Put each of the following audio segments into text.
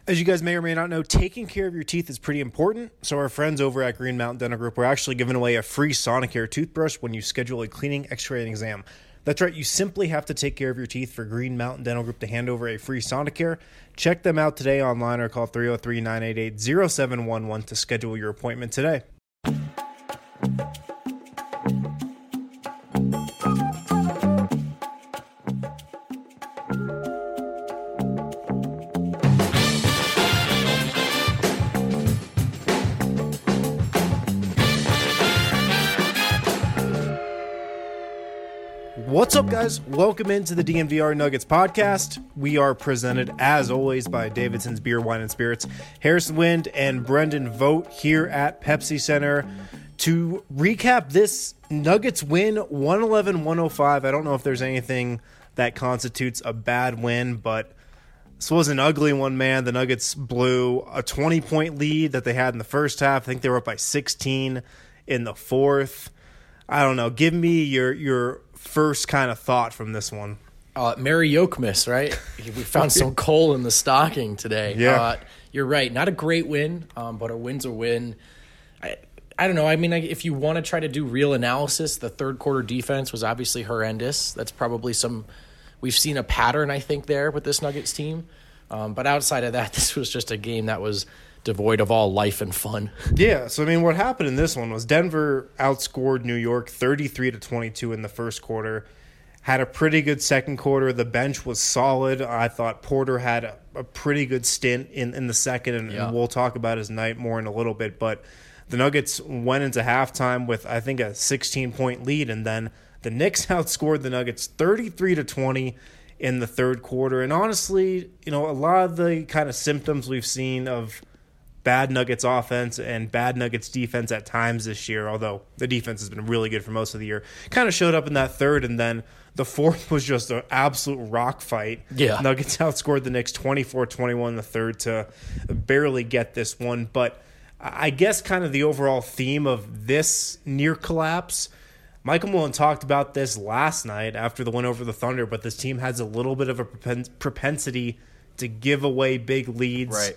As you guys may or may not know, taking care of your teeth is pretty important. So our friends over at Green Mountain Dental Group are actually giving away a free Sonicare toothbrush when you schedule a cleaning, x-ray, and exam. That's right, you simply have to take care of your teeth for Green Mountain Dental Group to hand over a free Sonicare. Check them out today online or call 303-988-0711 to schedule your appointment today. What's up, guys? Welcome into the DNVR Nuggets podcast. We are presented, as always, by Davidson's Beer, Wine, and Spirits, Harrison Wind, and Brendan Vogt here at Pepsi Center to recap this Nuggets win, 111-105. I don't know if there's anything that constitutes a bad win, but this was an ugly one, man. The Nuggets blew a 20-point lead that they had in the first half. I think they were up by 16 in the fourth. I don't know. Give me your first kind of thought from this one. Merry Yokemas, right? We found some coal in the stocking today. Yeah. You're right. Not a great win, but a win's a win. I don't know. I mean, if you want to try to do real analysis, the third quarter defense was obviously horrendous. That's probably we've seen a pattern, I think, there with this Nuggets team. But outside of that, this was just a game that was devoid of all life and fun. Yeah, so I mean, what happened in this one was Denver outscored New York 33-22 in the first quarter. Had a pretty good second quarter. The bench was solid. I thought Porter had a pretty good stint in the second, and we'll talk about his night more in a little bit. But the Nuggets went into halftime with, I think, a 16-point lead, and then the Knicks outscored the Nuggets 33-20 in the third quarter. And honestly, a lot of the kind of symptoms we've seen of bad Nuggets offense and bad Nuggets defense at times this year, although the defense has been really good for most of the year, kind of showed up in that third, and then the fourth was just an absolute rock fight. Yeah. Nuggets outscored the Knicks 24-21 in the third to barely get this one. But I guess kind of the overall theme of this near collapse, Michael Malone talked about this last night after the win over the Thunder, but this team has a little bit of a propensity to give away big leads. Right.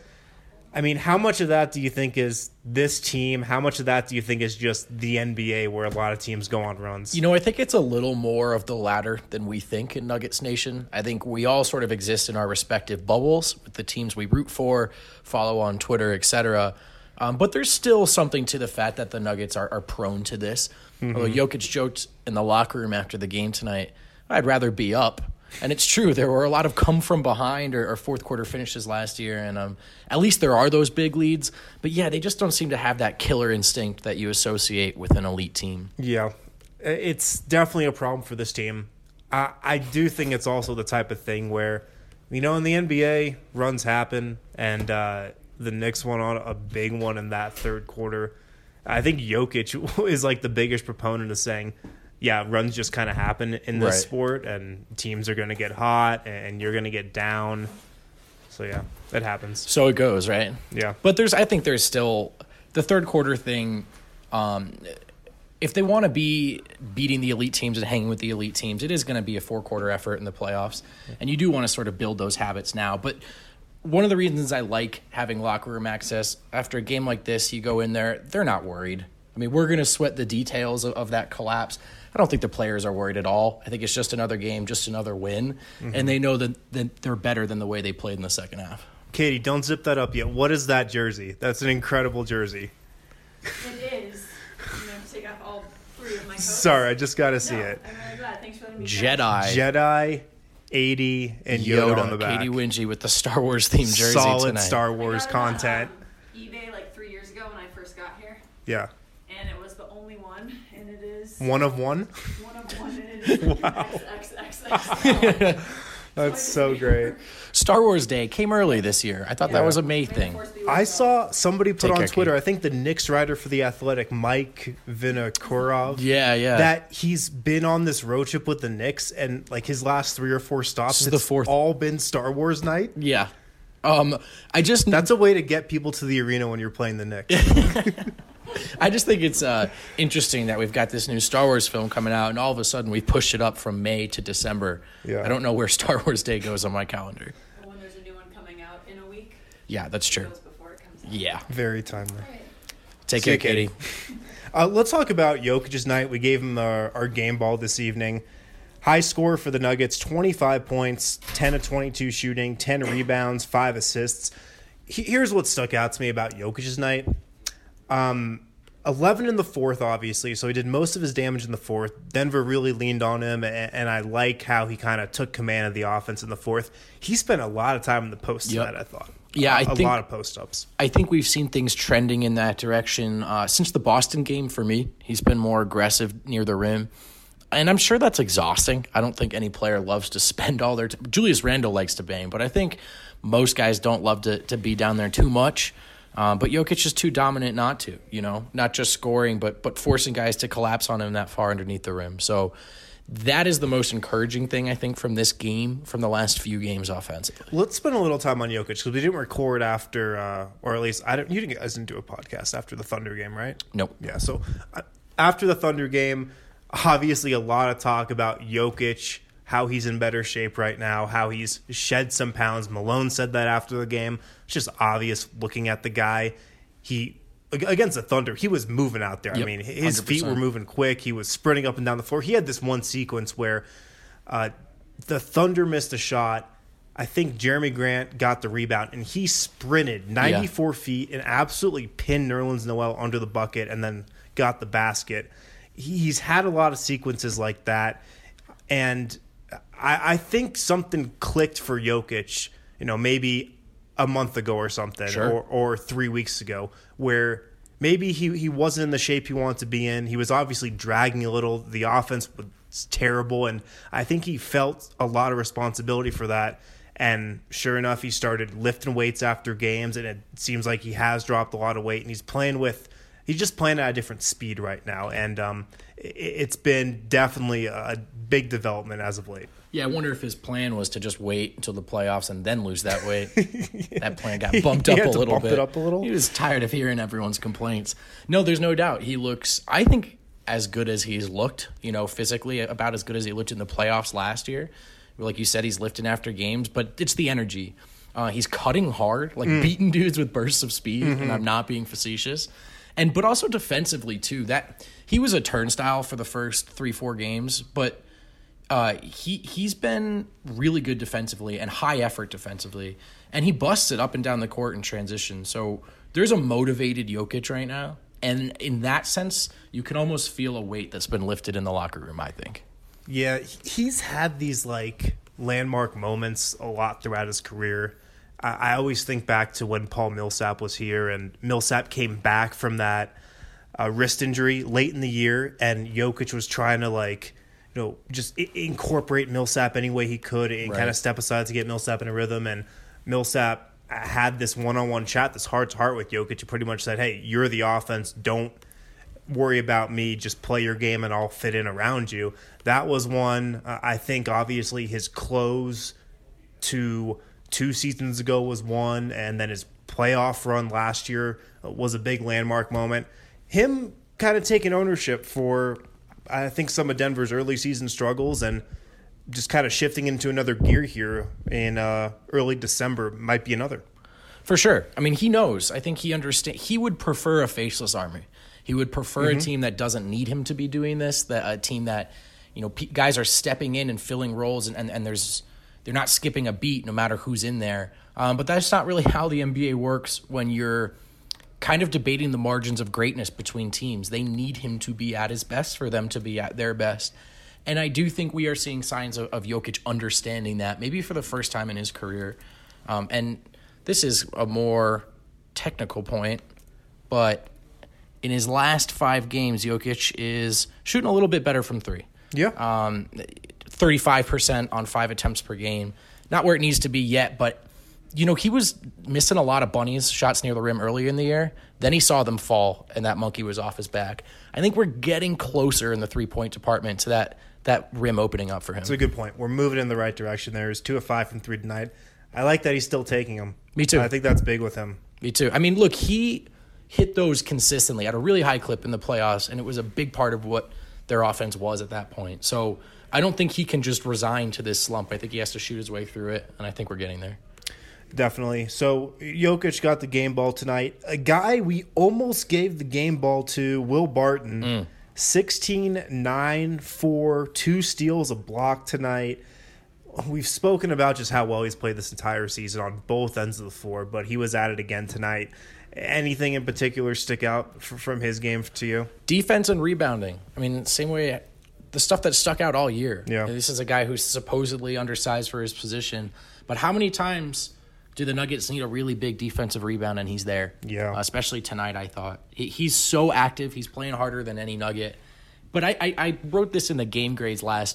I mean, how much of that do you think is this team? How much of that do you think is just the NBA where a lot of teams go on runs? I think it's a little more of the latter than we think in Nuggets Nation. I think we all sort of exist in our respective bubbles with the teams we root for, follow on Twitter, etc. But there's still something to the fact that the Nuggets are prone to this. Mm-hmm. Although Jokic joked in the locker room after the game tonight, I'd rather be up. And it's true. There were a lot of come from behind or fourth quarter finishes last year. And at least there are those big leads. But, yeah, they just don't seem to have that killer instinct that you associate with an elite team. Yeah, it's definitely a problem for this team. I do think it's also the type of thing where, in the NBA, runs happen. And the Knicks went on a big one in that third quarter. I think Jokic is like the biggest proponent of saying, yeah, runs just kind of happen in this sport, and teams are going to get hot, and you're going to get down. So, yeah, it happens. So it goes, right? Yeah. But I think there's still the third quarter thing. If they want to be beating the elite teams and hanging with the elite teams, it is going to be a four-quarter effort in the playoffs, and you do want to sort of build those habits now. But one of the reasons I like having locker room access, after a game like this, you go in there, they're not worried. I mean, we're going to sweat the details of that collapse. I don't think the players are worried at all. I think it's just another game, just another win. Mm-hmm. And they know that they're better than the way they played in the second half. Katie, don't zip that up yet. What is that jersey? That's an incredible jersey. It is. I'm going to take off all three of my coats. Sorry, I just got to see it. I'm really glad. Thanks for letting me Jedi, 80, and Yoda on the back. Katie Wingy with the Star Wars themed jersey Solid tonight. Star Wars content. eBay like 3 years ago when I first got here. Yeah. And it was the only one, and it is... One of one? One of one, and it is Wow. XXXXL. That's so great. Star Wars Day came early this year. I thought that was a May thing. I saw somebody put on Twitter, I think the Knicks writer for The Athletic, Mike Vinokurov. Yeah. That he's been on this road trip with the Knicks, and like his last 3 or 4 stops, it's the fourth. All been Star Wars night. Yeah. That's a way to get people to the arena when you're playing the Knicks. I just think it's interesting that we've got this new Star Wars film coming out, and all of a sudden we pushed it up from May to December. Yeah. I don't know where Star Wars Day goes on my calendar. When there's a new one coming out in a week. Yeah, that's true. Goes before it comes out. Yeah. Very timely. All right. Take See care, you, Katie. Let's talk about Jokic's night. We gave him our game ball this evening. High score for the Nuggets, 25 points, 10 of 22 shooting, 10 rebounds, 5 assists. Here's what stuck out to me about Jokic's night. 11 in the fourth, obviously, so he did most of his damage in the fourth. Denver really leaned on him, and I like how he kind of took command of the offense in the fourth. He spent a lot of time in the post tonight, I thought. Yeah, I a think- lot of post-ups. I think we've seen things trending in that direction since the Boston game for me. He's been more aggressive near the rim. And I'm sure that's exhausting. I don't think any player loves to spend all their time. Julius Randle likes to bang, but I think most guys don't love to be down there too much. But Jokic is too dominant not to, not just scoring, but forcing guys to collapse on him that far underneath the rim. So that is the most encouraging thing, I think, from this game, from the last few games offensively. Let's spend a little time on Jokic because we didn't record after, or at least you guys didn't do a podcast after the Thunder game, right? Nope. Yeah, so after the Thunder game, obviously a lot of talk about Jokic, how he's in better shape right now, how he's shed some pounds. Malone said that after the game. It's just obvious looking at the guy. Against the Thunder, he was moving out there. Yep, I mean, his 100%. feet were moving quick. He was sprinting up and down the floor. He had this one sequence where the Thunder missed a shot. I think Jeremy Grant got the rebound, and he sprinted 94 feet and absolutely pinned Nerlens Noel under the bucket and then got the basket. He's had a lot of sequences like that, and I think something clicked for Jokic, maybe a month ago or something, Sure. or 3 weeks ago, where maybe he wasn't in the shape he wanted to be in. He was obviously dragging a little. The offense was terrible, and I think he felt a lot of responsibility for that. And sure enough, he started lifting weights after games, and it seems like he has dropped a lot of weight, and he's just playing at a different speed right now. And it's been definitely a big development as of late. Yeah, I wonder if his plan was to just wait until the playoffs and then lose that weight. That plan got bumped He up had a to little bump bit. it up a little? He was tired of hearing everyone's complaints. No, there's no doubt. He looks, I think, as good as he's looked, physically, about as good as he looked in the playoffs last year. Like you said, he's lifting after games, but it's the energy. He's cutting hard, beating dudes with bursts of speed, and I'm not being facetious. But also defensively, too. That he was a turnstile for the first 3-4 games, but he's been really good defensively and high effort defensively, and he busts it up and down the court in transition. So there's a motivated Jokic right now, and in that sense, you can almost feel a weight that's been lifted in the locker room, I think. Yeah, he's had these landmark moments a lot throughout his career. I always think back to when Paul Millsap was here, and Millsap came back from that wrist injury late in the year, and Jokic was trying to just incorporate Millsap any way he could and kind of step aside to get Millsap in a rhythm. And Millsap had this one-on-one chat, this heart-to-heart with Jokic. He pretty much said, hey, you're the offense. Don't worry about me. Just play your game and I'll fit in around you. That was one. I think, obviously, his close to 2 seasons ago was one, and then his playoff run last year was a big landmark moment. Him kind of taking ownership for, I think, some of Denver's early season struggles and just kind of shifting into another gear here in early December might be another. For sure. I mean, he knows. I think he understands. He would prefer a faceless army. He would prefer a team that doesn't need him to be doing this, that a team that, guys are stepping in and filling roles, and they're not skipping a beat no matter who's in there. But that's not really how the NBA works when you're kind of debating the margins of greatness between teams. They need him to be at his best for them to be at their best. And I do think we are seeing signs of Jokic understanding that, maybe for the first time in his career. And this is a more technical point, but in his last 5 games, Jokic is shooting a little bit better from 3. Yeah. 35% on 5 attempts per game. Not where it needs to be yet, but, he was missing a lot of bunnies, shots near the rim earlier in the year. Then he saw them fall, and that monkey was off his back. I think we're getting closer in the three-point department to that rim opening up for him. That's a good point. We're moving in the right direction there. He's 2 of 5 from 3 tonight. I like that he's still taking them. Me too. I think that's big with him. Me too. I mean, look, he hit those consistently at a really high clip in the playoffs, and it was a big part of what their offense was at that point. So I don't think he can just resign to this slump. I think he has to shoot his way through it, and I think we're getting there. Definitely. So Jokic got the game ball tonight. A guy we almost gave the game ball to, Will Barton. 16, 9, 4, 2 steals, a block tonight. We've spoken about just how well he's played this entire season on both ends of the floor, but he was at it again tonight. Anything in particular stick out from his game to you? Defense and rebounding. I mean, same way, the stuff that stuck out all year. Yeah. This is a guy who's supposedly undersized for his position, but how many times do the Nuggets need a really big defensive rebound and he's there? Yeah. Especially tonight, I thought. He's so active. He's playing harder than any Nugget. But I wrote this in the game grades last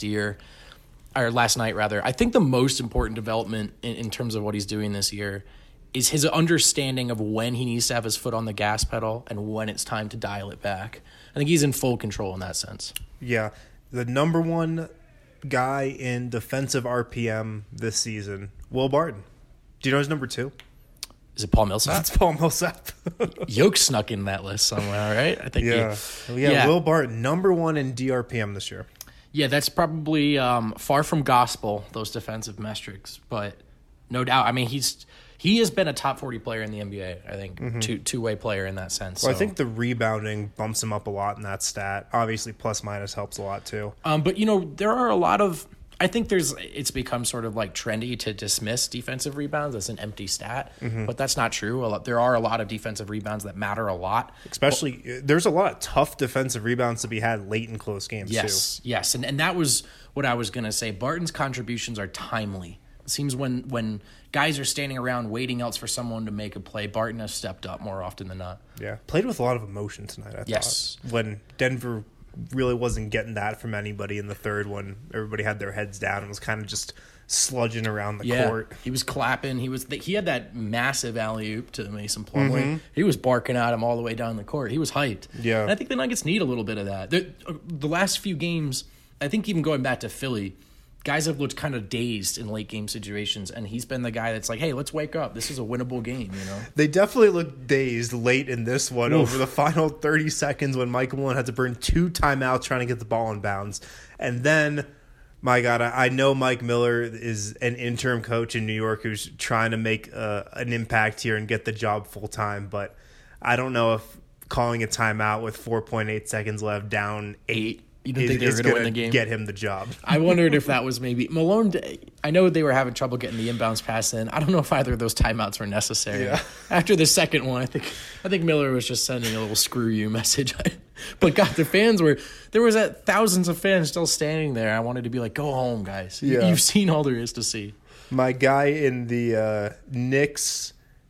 night. I think the most important development in terms of what he's doing this year is his understanding of when he needs to have his foot on the gas pedal and when it's time to dial it back. I think he's in full control in that sense. Yeah. The number one guy in defensive RPM this season, Will Barton. Do you know his number 2? Is it Paul Millsap? That's Paul Millsap. Yoke snuck in that list somewhere, right? I think. Yeah. Will Barton, number 1 in DRPM this year. Yeah, that's probably far from gospel, those defensive metrics, but no doubt. I mean, he has been a top 40 player in the NBA, I think, two-way player in that sense. Well, so. I think the rebounding bumps him up a lot in that stat. Obviously, plus-minus helps a lot, too. But, there are a lot of – I think it's become sort of like trendy to dismiss defensive rebounds as an empty stat, but that's not true. There are a lot of defensive rebounds that matter a lot. Especially, there's a lot of tough defensive rebounds to be had late in close games, too. Yes, and that was what I was going to say. Barton's contributions are timely. It seems when guys are standing around waiting else for someone to make a play, Barton has stepped up more often than not. Yeah, played with a lot of emotion tonight, I thought. When Denver really wasn't getting that from anybody in the third, when everybody had their heads down and was kind of just sludging around the court. He was clapping. He had that massive alley-oop to Mason Plumlee. He was barking at him all the way down the court. He was hyped. Yeah. And I think the Nuggets need a little bit of that. The last few games, I think even going back to Philly, guys have looked kind of dazed in late game situations, and he's been the guy that's like, hey, let's wake up. This is a winnable game, They definitely looked dazed late in this one over the final 30 seconds when Michael Malone had to burn 2 timeouts trying to get the ball in bounds. And then, my God, I know Mike Miller is an interim coach in New York who's trying to make an impact here and get the job full-time, but I don't know if calling a timeout with 4.8 seconds left down 8 You didn't think they were going to win the game? Get him the job. I wondered if that was maybe Malone. I know they were having trouble getting the inbounds pass in. I don't know if either of those timeouts were necessary. Yeah. After the second one, I think Miller was just sending a little "screw you" message. But God, the fans there was thousands of fans still standing there. I wanted to be like, "Go home, guys. Yeah. You've seen all there is to see." My guy in the Knicks,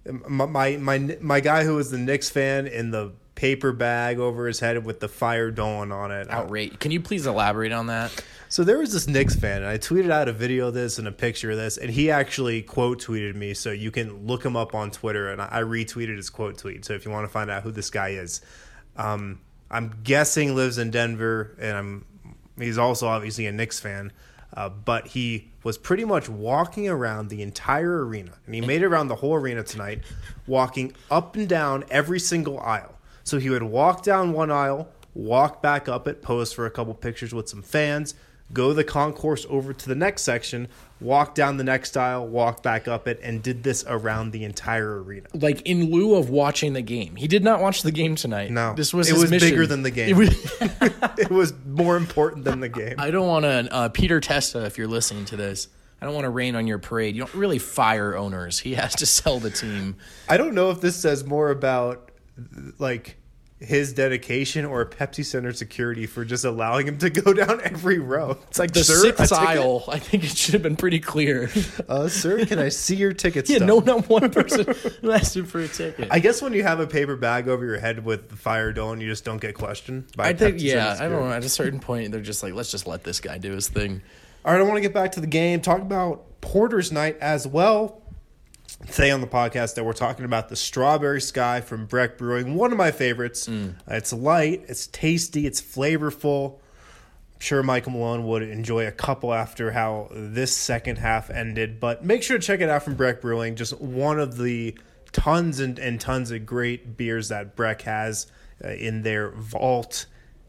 my guy who was the Knicks fan in the paper bag over his head with the Fire Dawn on it. Outrage. Can you please elaborate on that? So there was this Knicks fan, and I tweeted out a video of this and a picture of this, and he actually quote tweeted me, so you can look him up on Twitter, and I retweeted his quote tweet. So if you want to find out who this guy is, I'm guessing lives in Denver, and he's also obviously a Knicks fan, but he was pretty much walking around the entire arena, and he made it around the whole arena tonight, walking up and down every single aisle. So he would walk down one aisle, walk back up it, pose for a couple pictures with some fans, go the concourse over to the next section, walk down the next aisle, walk back up it, and did this around the entire arena. Like in lieu of watching the game. He did not watch the game tonight. No. This was it his was mission. bigger than the game. It was more important than the game. I don't want to, Peter Testa, if you're listening to this, I don't want to rain on your parade. You don't really fire owners. He has to sell the team. I don't know if this says more about like his dedication or Pepsi Center security for just allowing him to go down every row. It's like, The sir, sixth aisle, I think it should have been pretty clear. Sir, can I see your ticket Yeah, stub? no, not one person asked him for a ticket. I guess when you have a paper bag over your head with the Fire Dawn, you just don't get questioned. By I think, Pepsi Center I don't security. know. At a certain point, they're just like, let's just let this guy do his thing. All right, I want to get back to the game. Talk about Porter's night as well. Today on the podcast that we're talking about the Strawberry Sky from Breck Brewing, one of my favorites. It's light, it's tasty, it's flavorful. I'm sure Michael Malone would enjoy a couple after how this second half ended, but make sure to check it out from Breck Brewing. Just one of the tons and tons of great beers that Breck has in their vault.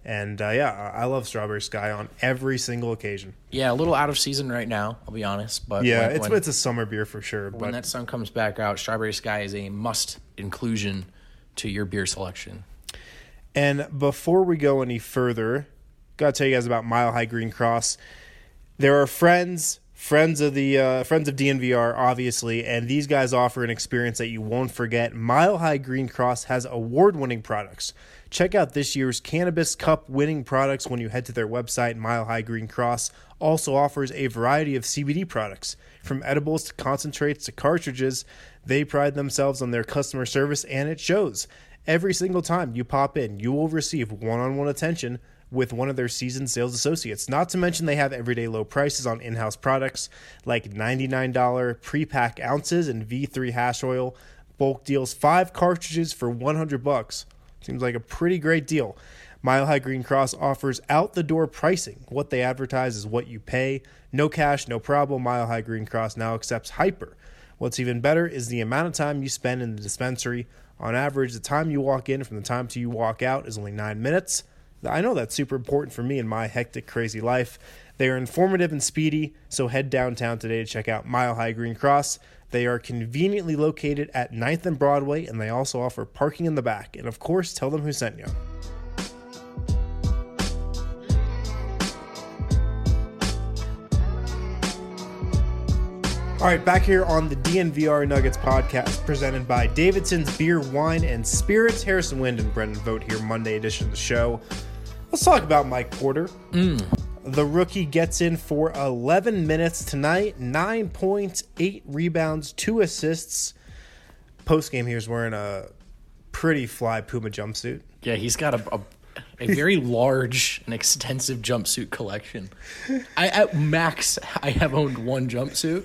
And I love Strawberry Sky on every single occasion. Yeah, a little out of season right now, I'll be honest. But yeah, it's a summer beer for sure. When that sun comes back out, Strawberry Sky is a must inclusion to your beer selection. And before we go any further, got to tell you guys about Mile High Green Cross. There are friends of DNVR, obviously, and these guys offer an experience that you won't forget. Mile High Green Cross has award-winning products. Check out this year's Cannabis Cup winning products when you head to their website. Mile High Green Cross also offers a variety of CBD products. From edibles to concentrates to cartridges, they pride themselves on their customer service, and it shows. Every single time you pop in, you will receive one-on-one attention with one of their seasoned sales associates. Not to mention they have everyday low prices on in-house products like $99 pre-pack ounces and V3 hash oil. Bulk deals 5 cartridges for $100. Seems like a pretty great deal. Mile High Green Cross offers out-the-door pricing. What they advertise is what you pay. No cash, no problem. Mile High Green Cross now accepts Hyper. What's even better is the amount of time you spend in the dispensary. On average, the time you walk in from the time till you walk out is only 9 minutes. I know that's super important for me in my hectic, crazy life. They are informative and speedy, so head downtown today to check out Mile High Green Cross. They are conveniently located at 9th and Broadway, and they also offer parking in the back. And of course, tell them who sent you. All right, back here on the DNVR Nuggets podcast, presented by Davidson's Beer, Wine, and Spirits. Harrison Wind and Brendan Vogt here, Monday edition of the show. Let's talk about Mike Porter. The rookie gets in for 11 minutes tonight, 9 points, 8 rebounds, 2 assists. Post-game, he was wearing a pretty fly Puma jumpsuit. Yeah, he's got a very large and extensive jumpsuit collection. At max, I have owned one jumpsuit.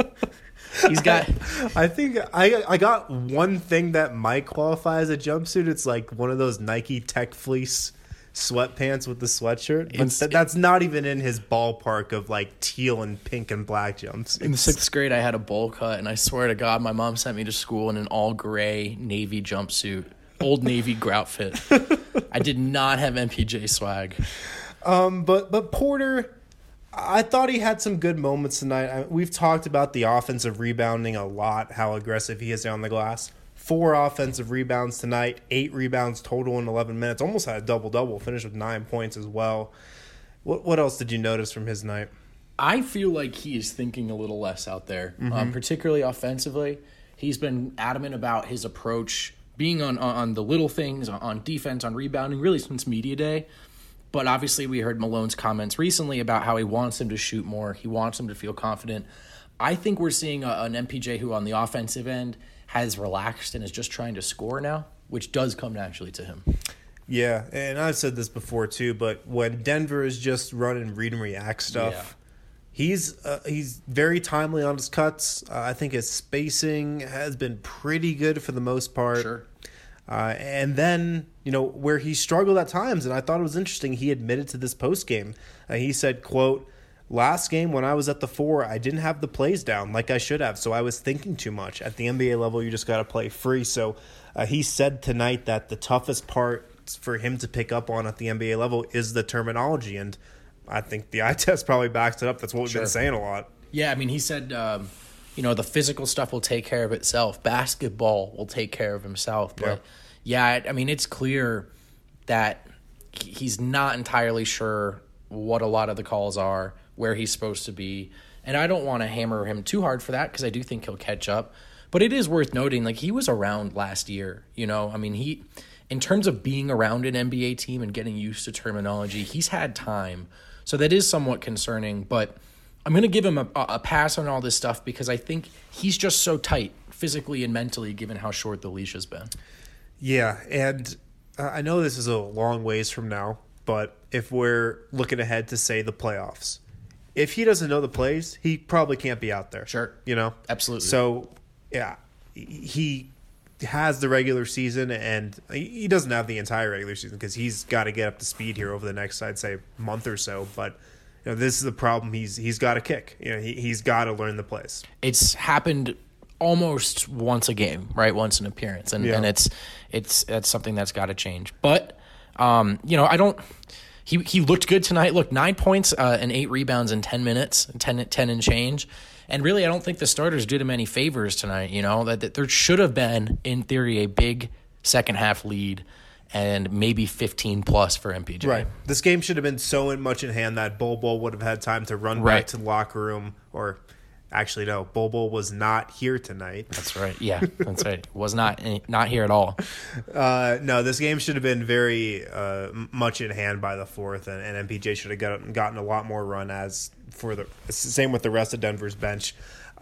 He's got. I think I got one thing that might qualify as a jumpsuit. It's like one of those Nike Tech Fleece sweatpants with the sweatshirt. But that's not even in his ballpark of like teal and pink and black jumpsuits. In the 6th grade, I had a bowl cut, and I swear to God, my mom sent me to school in an all gray Navy jumpsuit, Old Navy grout fit. I did not have MPJ swag. But Porter, I thought he had some good moments tonight. We've talked about the offensive rebounding a lot, how aggressive he is on the glass. 4 offensive rebounds tonight, 8 rebounds total in 11 minutes. Almost had a double-double, finished with 9 points as well. What else did you notice from his night? I feel like he is thinking a little less out there, particularly offensively. He's been adamant about his approach, being on the little things, on defense, on rebounding, really since media day. But obviously we heard Malone's comments recently about how he wants him to shoot more. He wants him to feel confident. I think we're seeing an MPJ who on the offensive end has relaxed and is just trying to score now, which does come naturally to him. Yeah, and I've said this before too, but when Denver is just running read and react stuff, he's very timely on his cuts. I think his spacing has been pretty good for the most part. Sure. And then, where he struggled at times, and I thought it was interesting, he admitted to this postgame. He said, quote, "Last game when I was at the 4, I didn't have the plays down like I should have, so I was thinking too much. At the NBA level, you just got to play free." So he said tonight that the toughest part for him to pick up on at the NBA level is the terminology, and I think the eye test probably backs it up. That's what we've been saying a lot. Yeah, I mean, he said, the physical stuff will take care of itself. Basketball will take care of himself. But, it's clear that he's not entirely sure what a lot of the calls are, where he's supposed to be. And I don't want to hammer him too hard for that because I do think he'll catch up. But it is worth noting, he was around last year, he, in terms of being around an NBA team and getting used to terminology, he's had time. So that is somewhat concerning, but I'm going to give him a pass on all this stuff because I think he's just so tight physically and mentally given how short the leash has been. Yeah, and I know this is a long ways from now, but if we're looking ahead to, say, the playoffs, if he doesn't know the plays, he probably can't be out there. Sure. Absolutely. So, yeah, he has the regular season, and he doesn't have the entire regular season because he's got to get up to speed here over the next, I'd say, month or so. But this is the problem. He's got to kick. He's got to learn the plays. It's happened almost once a game, right? Once an appearance, and that's something that's got to change. But I don't. He looked good tonight. Look, 9 points and 8 rebounds in 10 minutes, 10 and change. And really, I don't think the starters did him any favors tonight. That there should have been, in theory, a big second half lead and maybe 15 plus for MPJ. Right. This game should have been so much in hand that Bol would have had time to run back to the locker room. Or actually, no, Bol was not here tonight. That's right. Yeah, that's right. Was not here at all. No, this game should have been very much in hand by the fourth, and MPJ should have gotten a lot more run same with the rest of Denver's bench.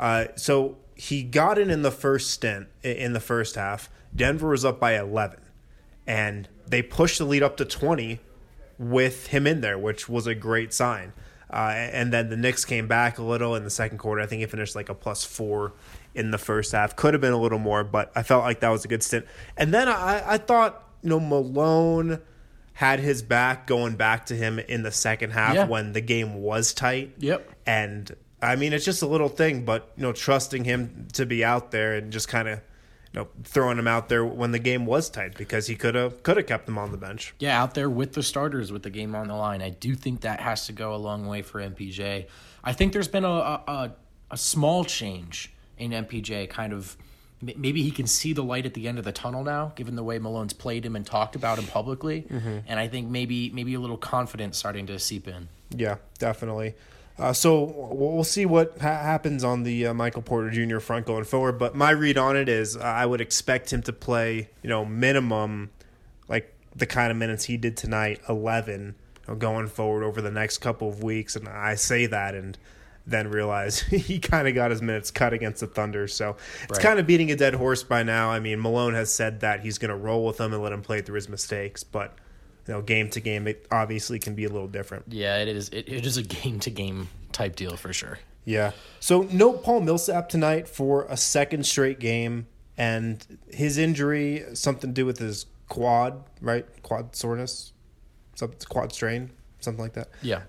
So he got in the first stint in the first half. Denver was up by 11, and they pushed the lead up to 20 with him in there, which was a great sign. And then the Knicks came back a little in the second quarter. I think he finished like a +4 in the first half. Could have been a little more, but I felt like that was a good stint. And then I thought, Malone had his back going back to him in the second half when the game was tight. Yep. And, I mean, it's just a little thing, but, trusting him to be out there and just kind of, throwing him out there when the game was tight because he could have kept him on the bench. Yeah, out there with the starters with the game on the line. I do think that has to go a long way for MPJ. I think there's been a small change in MPJ. Kind of maybe he can see the light at the end of the tunnel now, given the way Malone's played him and talked about him publicly. Mm-hmm. And I think maybe a little confidence starting to seep in. Yeah, definitely. So we'll see what happens on the Michael Porter Jr. front going forward. But my read on it is I would expect him to play, minimum like the kind of minutes he did tonight, 11, going forward over the next couple of weeks. And I say that and then realize he kind of got his minutes cut against the Thunder. So it's kind of beating a dead horse by now. I mean, Malone has said that he's going to roll with him and let him play through his mistakes. But game to game, it obviously can be a little different. Yeah, it is. It is a game to game type deal for sure. Yeah. So no Paul Millsap tonight for a second straight game, and his injury something to do with his quad, right? Quad soreness, quad strain, something like that. Yeah.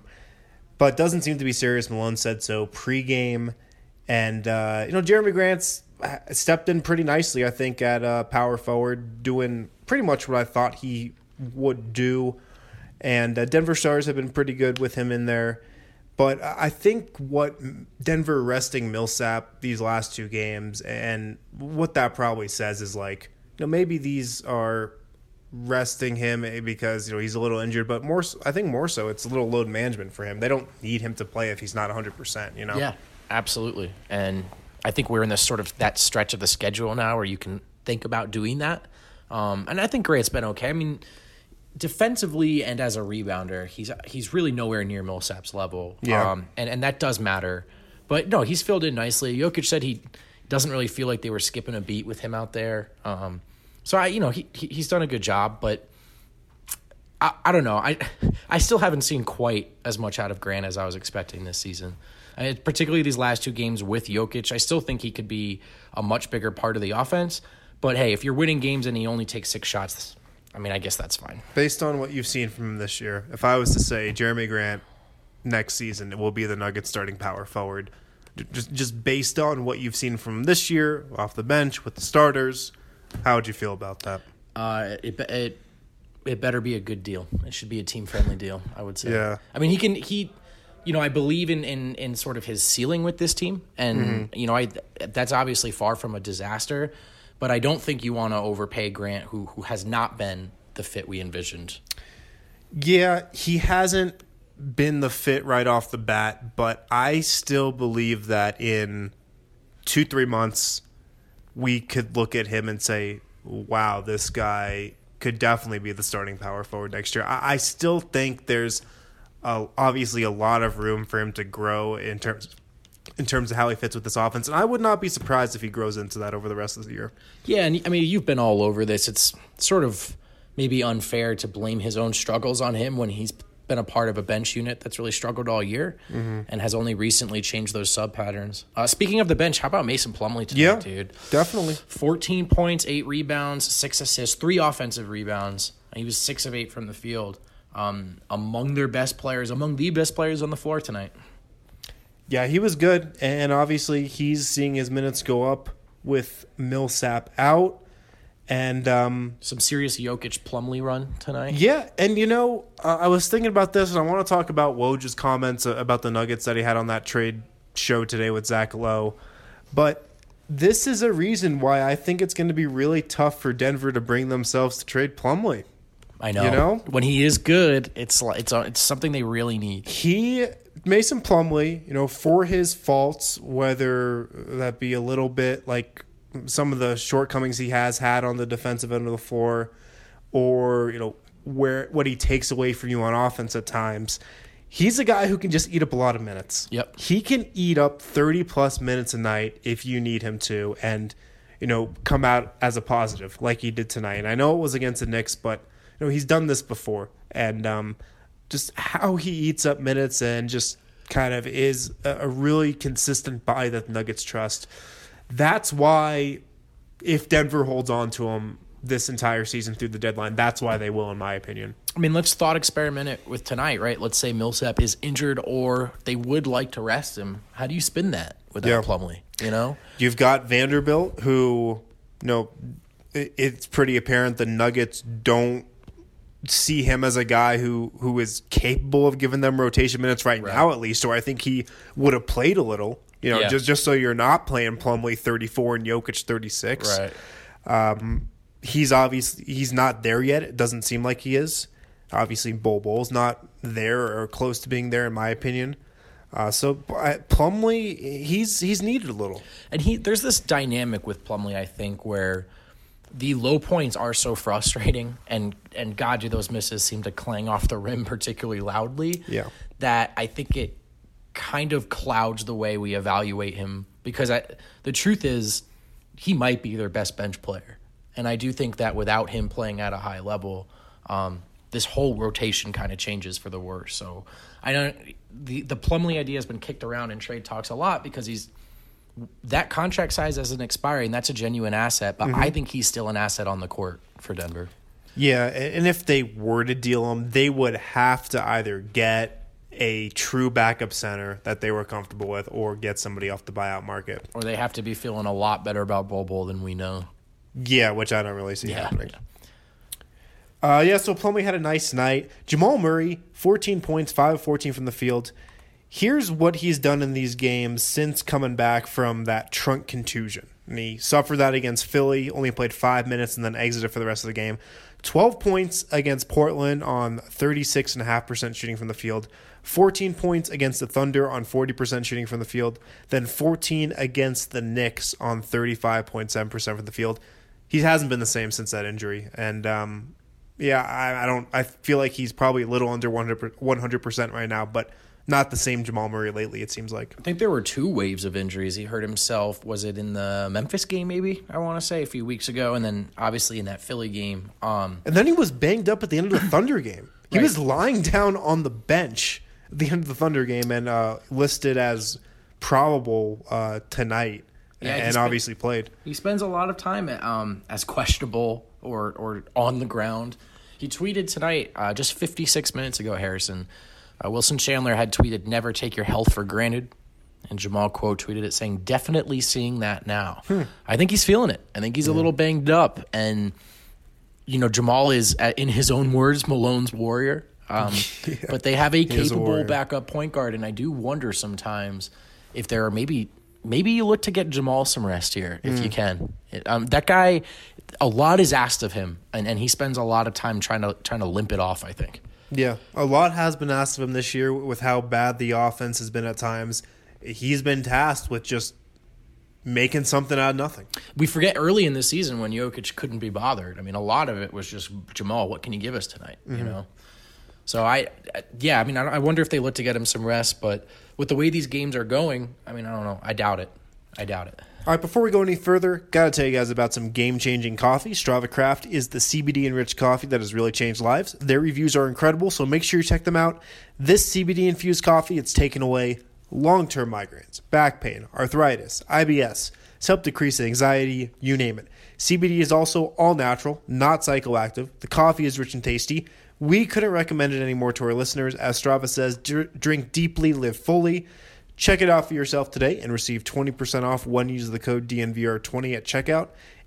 But doesn't seem to be serious. Malone said so pregame, and Jeremy Grant's stepped in pretty nicely, I think, at power forward, doing pretty much what I thought he would do, and Denver Stars have been pretty good with him in there. But I think what Denver resting Millsap these last two games, and what that probably says is like, maybe these are resting him because he's a little injured, but I think more so it's a little load management for him. They don't need him to play if he's not 100%. Yeah, absolutely. And I think we're in this sort of that stretch of the schedule now where you can think about doing that. And I think Grant's been okay. I mean, defensively and as a rebounder, he's really nowhere near Millsap's level. Yeah. And that does matter. But no, he's filled in nicely. Jokic said he doesn't really feel like they were skipping a beat with him out there. So he's done a good job, but I don't know. I still haven't seen quite as much out of Grant as I was expecting this season. Particularly these last two games with Jokic, I still think he could be a much bigger part of the offense. But hey, if you're winning games and he only takes 6 shots, I mean, I guess that's fine. Based on what you've seen from him this year, if I was to say Jeremy Grant next season, it will be the Nuggets starting power forward. Just based on what you've seen from him this year, off the bench with the starters, how would you feel about that? It better be a good deal. It should be a team-friendly deal, I would say. Yeah. I mean, I believe in sort of his ceiling with this team, and that's obviously far from a disaster. But I don't think you want to overpay Grant, who has not been the fit we envisioned. Yeah, he hasn't been the fit right off the bat, but I still believe that in 2-3 months, we could look at him and say, wow, this guy could definitely be the starting power forward next year. I still think there's obviously a lot of room for him to grow in terms of how he fits with this offense. And I would not be surprised if he grows into that over the rest of the year. Yeah, and I mean, you've been all over this. It's sort of maybe unfair to blame his own struggles on him when he's been a part of a bench unit that's really struggled all year and has only recently changed those sub patterns. Speaking of the bench, how about Mason Plumlee tonight, dude? Definitely. 14 points, 8 rebounds, 6 assists, 3 offensive rebounds. He was 6 of 8 from the field. Among the best players on the floor tonight. Yeah, he was good, and obviously he's seeing his minutes go up with Millsap out. And Some serious Jokic Plumlee run tonight. yeah, and I was thinking about this, and I want to talk about Woj's comments about the Nuggets that he had on that trade show today with Zach Lowe. But this is a reason why I think it's going to be really tough for Denver to bring themselves to trade Plumlee. I know. When he is good, it's something they really need. Mason Plumlee, for his faults, whether that be a little bit like some of the shortcomings he has had on the defensive end of the floor, or what he takes away from you on offense at times, he's a guy who can just eat up a lot of minutes. Yep. He can eat up 30-plus minutes a night if you need him to, and come out as a positive like he did tonight. And I know it was against the Knicks, but he's done this before, and just how he eats up minutes and just kind of is a really consistent buy that the Nuggets trust. That's why, if Denver holds on to him this entire season through the deadline, that's why they will, in my opinion. I mean, let's thought experiment it with tonight, right? Let's say Millsap is injured or they would like to rest him. How do you spin that without Plumlee? You've got Vanderbilt, who, it's pretty apparent the Nuggets don't see him as a guy who is capable of giving them rotation minutes right now, at least, or I think he would have played a little. Just so you're not playing Plumlee 34 and Jokic 36. Right. He's not there yet. It doesn't seem like he is. Obviously, Bol's not there or close to being there, in my opinion. So Plumlee, he's needed a little. And there's this dynamic with Plumlee, I think, where the low points are so frustrating, and God, do those misses seem to clang off the rim particularly loudly. Yeah. That I think it kind of clouds the way we evaluate him, because the truth is he might be their best bench player, and I do think that without him playing at a high level, this whole rotation kind of changes for the worse. So the Plumlee idea has been kicked around in trade talks a lot because that contract size isn't expiring. That's a genuine asset, but I think he's still an asset on the court for Denver. Yeah, and if they were to deal him, they would have to either get a true backup center that they were comfortable with, or get somebody off the buyout market. Or they have to be feeling a lot better about Bol than we know. Yeah, which I don't really see happening. So Plumlee had a nice night. Jamal Murray, 14 points, 5 of 14 from the field. Here's what he's done in these games since coming back from that trunk contusion. And he suffered that against Philly, only played 5 minutes and then exited for the rest of the game. 12 points against Portland on 36.5% shooting from the field. 14 points against the Thunder on 40% shooting from the field. Then 14 against the Knicks on 35.7% from the field. He hasn't been the same since that injury. And I feel like he's probably a little under 100% right now, but not the same Jamal Murray lately, it seems like. I think there were 2 waves of injuries. He hurt himself, was it in the Memphis game maybe, I want to say, a few weeks ago, and then obviously in that Philly game. And then he was banged up at the end of the Thunder game. He was lying down on the bench at the end of the Thunder game and listed as probable tonight, and obviously played. He spends a lot of time as questionable or on the ground. He tweeted tonight, just 56 minutes ago, Harrison, Wilson Chandler had tweeted, "Never take your health for granted." And Jamal quote tweeted it saying, "Definitely seeing that now." I think he's feeling it. I think he's a little banged up. And, Jamal is, in his own words, Malone's warrior. But they have a capable backup point guard. And I do wonder sometimes if there are maybe you look to get Jamal some rest here if you can. That guy, a lot is asked of him. And he spends a lot of time trying to limp it off, I think. Yeah, a lot has been asked of him this year with how bad the offense has been at times. He's been tasked with just making something out of nothing. We forget early in the season when Jokic couldn't be bothered. I mean, a lot of it was just, Jamal, what can you give us tonight? So I wonder if they look to get him some rest, but with the way these games are going, I mean, I don't know. I doubt it. All right, before we go any further, got to tell you guys about some game-changing coffee. Strava Craft is the CBD-enriched coffee that has really changed lives. Their reviews are incredible, so make sure you check them out. This CBD-infused coffee, it's taken away long-term migraines, back pain, arthritis, IBS. It's helped decrease anxiety, you name it. CBD is also all-natural, not psychoactive. The coffee is rich and tasty. We couldn't recommend it anymore to our listeners. As Strava says, drink deeply, live fully. Check it out for yourself today and receive 20% off when you use the code DNVR20 at checkout.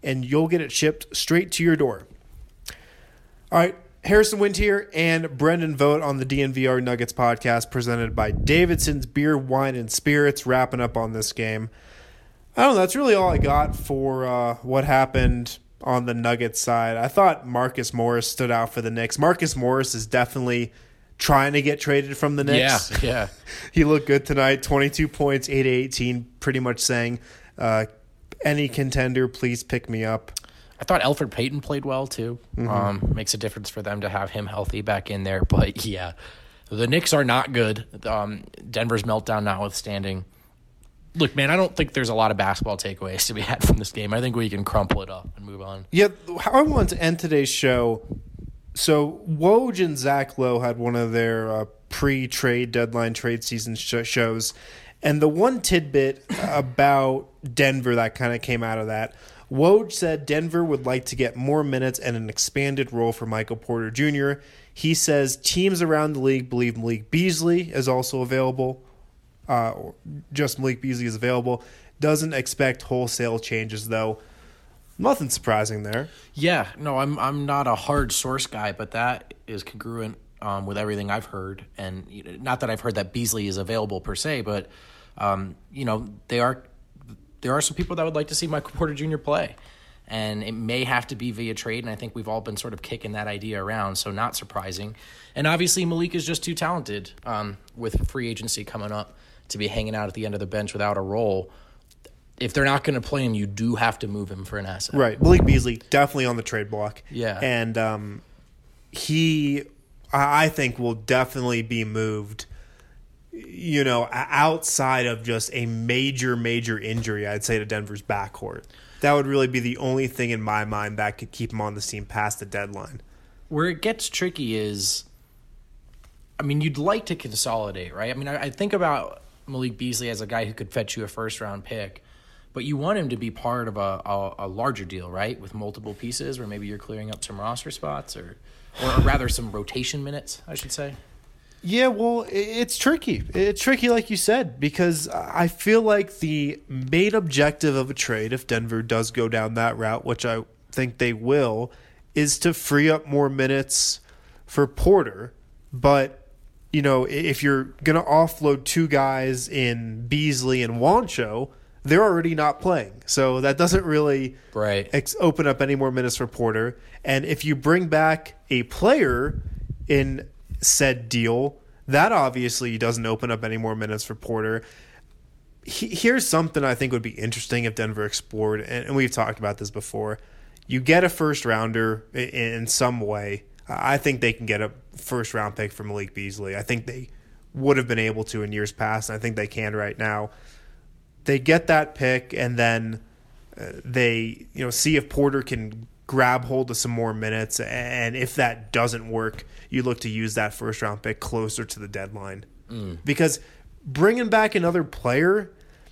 and you'll get it shipped straight to your door. All right, Harrison Wind here and Brendan Vogt on the DNVR Nuggets podcast presented by Davidson's Beer, Wine, and Spirits, wrapping up on this game. I don't know, that's really all I got for what happened on the Nuggets side. I thought Marcus Morris stood out for the Knicks. Marcus Morris is definitely trying to get traded from the Knicks. Yeah. He looked good tonight, 22 points, 8-18, pretty much saying, any contender, please pick me up. I thought Elfrid Payton played well, too. Makes a difference for them to have him healthy back in there. But, yeah, the Knicks are not good. Denver's meltdown notwithstanding. Look, man, I don't think there's a lot of basketball takeaways to be had from this game. I think we can crumple it up and move on. Yeah, how I want to end today's show. So Woj and Zach Lowe had one of their pre-trade deadline trade season shows. And the one tidbit about Denver that kind of came out of that, Woj said Denver would like to get more minutes and an expanded role for Michael Porter Jr. He says teams around the league believe Malik Beasley is also available. Just Malik Beasley is available. Doesn't expect wholesale changes, though. Nothing surprising there. Yeah, no, I'm not a hard source guy, but that is congruent with everything I've heard. And not that I've heard that Beasley is available per se, but there are some people that would like to see Michael Porter Jr. play. And it may have to be via trade, and I think we've all been sort of kicking that idea around, so not surprising. And obviously Malik is just too talented with free agency coming up to be hanging out at the end of the bench without a role. If they're not going to play him, you do have to move him for an asset. Right. Malik Beasley, definitely on the trade block. Yeah. And I think, will definitely be moved, outside of just a major, major injury, I'd say, to Denver's backcourt. That would really be the only thing in my mind that could keep him on this team past the deadline. Where it gets tricky is, you'd like to consolidate, right? I think about Malik Beasley as a guy who could fetch you a first-round pick, but you want him to be part of a larger deal, right, with multiple pieces where maybe you're clearing up some roster spots or rather some rotation minutes, I should say. Yeah, well, it's tricky. It's tricky, like you said, because I feel like the main objective of a trade, if Denver does go down that route, which I think they will, is to free up more minutes for Porter. But if you're going to offload two guys in Beasley and Wancho, they're already not playing. So that doesn't really open up any more minutes for Porter. And if you bring back a player in said deal, that obviously doesn't open up any more minutes for Porter. Here's something I think would be interesting if Denver explored, and we've talked about this before. You get a first-rounder in some way. I think they can get a first-round pick for Malik Beasley. I think they would have been able to in years past, and I think they can right now. They get that pick, and then they see if Porter can grab hold of some more minutes, and if that doesn't work, you look to use that first-round pick closer to the deadline. Because bringing back another player,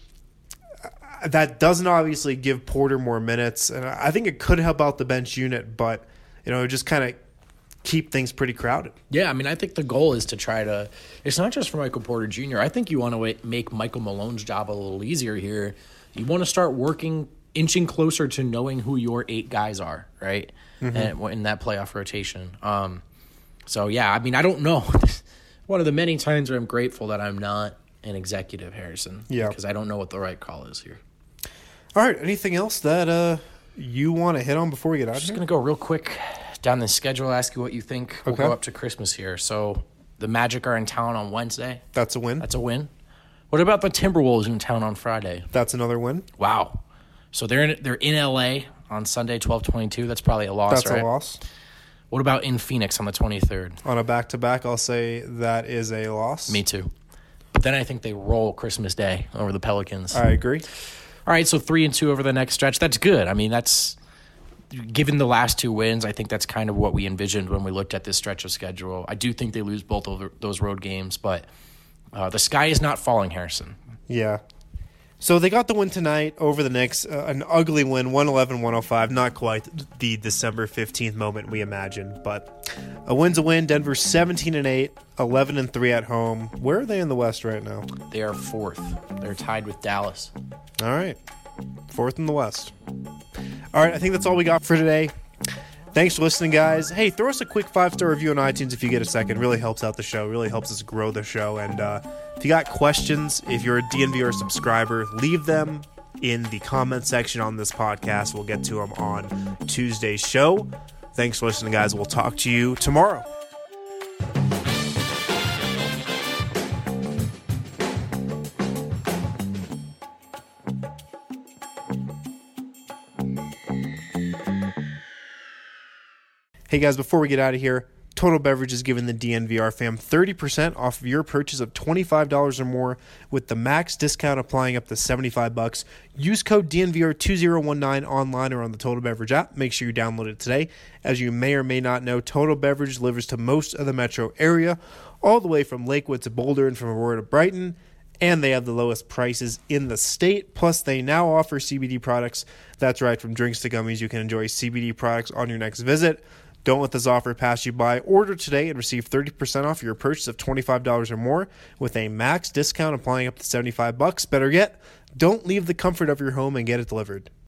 that doesn't obviously give Porter more minutes, and I think it could help out the bench unit, but just kind of keep things pretty crowded. Yeah, I think the goal is to try to – it's not just for Michael Porter Jr. I think you want to make Michael Malone's job a little easier here. You want to start inching closer to knowing who your 8 guys are, right, and in that playoff rotation. So, yeah, I don't know. One of the many times where I'm grateful that I'm not an executive, Harrison, because I don't know what the right call is here. All right, anything else that you want to hit on before we get out of here? Just going to go real quick down the schedule, ask you what you think. We'll go up to Christmas here. So the Magic are in town on Wednesday. That's a win. That's a win. What about the Timberwolves in town on Friday? That's another win. Wow. So they're in L.A. on Sunday, 12/22. That's probably a loss, right? That's a loss. What about in Phoenix on the 23rd? On a back-to-back, I'll say that is a loss. Me too. But then I think they roll Christmas Day over the Pelicans. I agree. All right, so 3-2 over the next stretch. That's good. That's given the last 2 wins, I think that's kind of what we envisioned when we looked at this stretch of schedule. I do think they lose both of those road games, but the sky is not falling, Harrison. Yeah. So they got the win tonight over the Knicks, an ugly win, 111-105, not quite the December 15th moment we imagined, but a win's a win. Denver 17-8, 11-3 at home. Where are they in the West right now? They are 4th. They're tied with Dallas. All right. Fourth in the West. All right, I think that's all we got for today. Thanks for listening, guys. Hey, throw us a quick 5-star review on iTunes if you get a second. Really helps out the show. Really helps us grow the show. And if you got questions, if you're a DNVR subscriber, leave them in the comment section on this podcast. We'll get to them on Tuesday's show. Thanks for listening, guys. We'll talk to you tomorrow. Hey guys, before we get out of here, Total Beverage is giving the DNVR fam 30% off of your purchase of $25 or more with the max discount applying up to $75. Use code DNVR2019 online or on the Total Beverage app. Make sure you download it today. As you may or may not know, Total Beverage delivers to most of the metro area, all the way from Lakewood to Boulder and from Aurora to Brighton. And they have the lowest prices in the state. Plus, they now offer CBD products. That's right, from drinks to gummies, you can enjoy CBD products on your next visit. Don't let this offer pass you by. Order today and receive 30% off your purchase of $25 or more with a max discount applying up to $75. Better yet, don't leave the comfort of your home and get it delivered.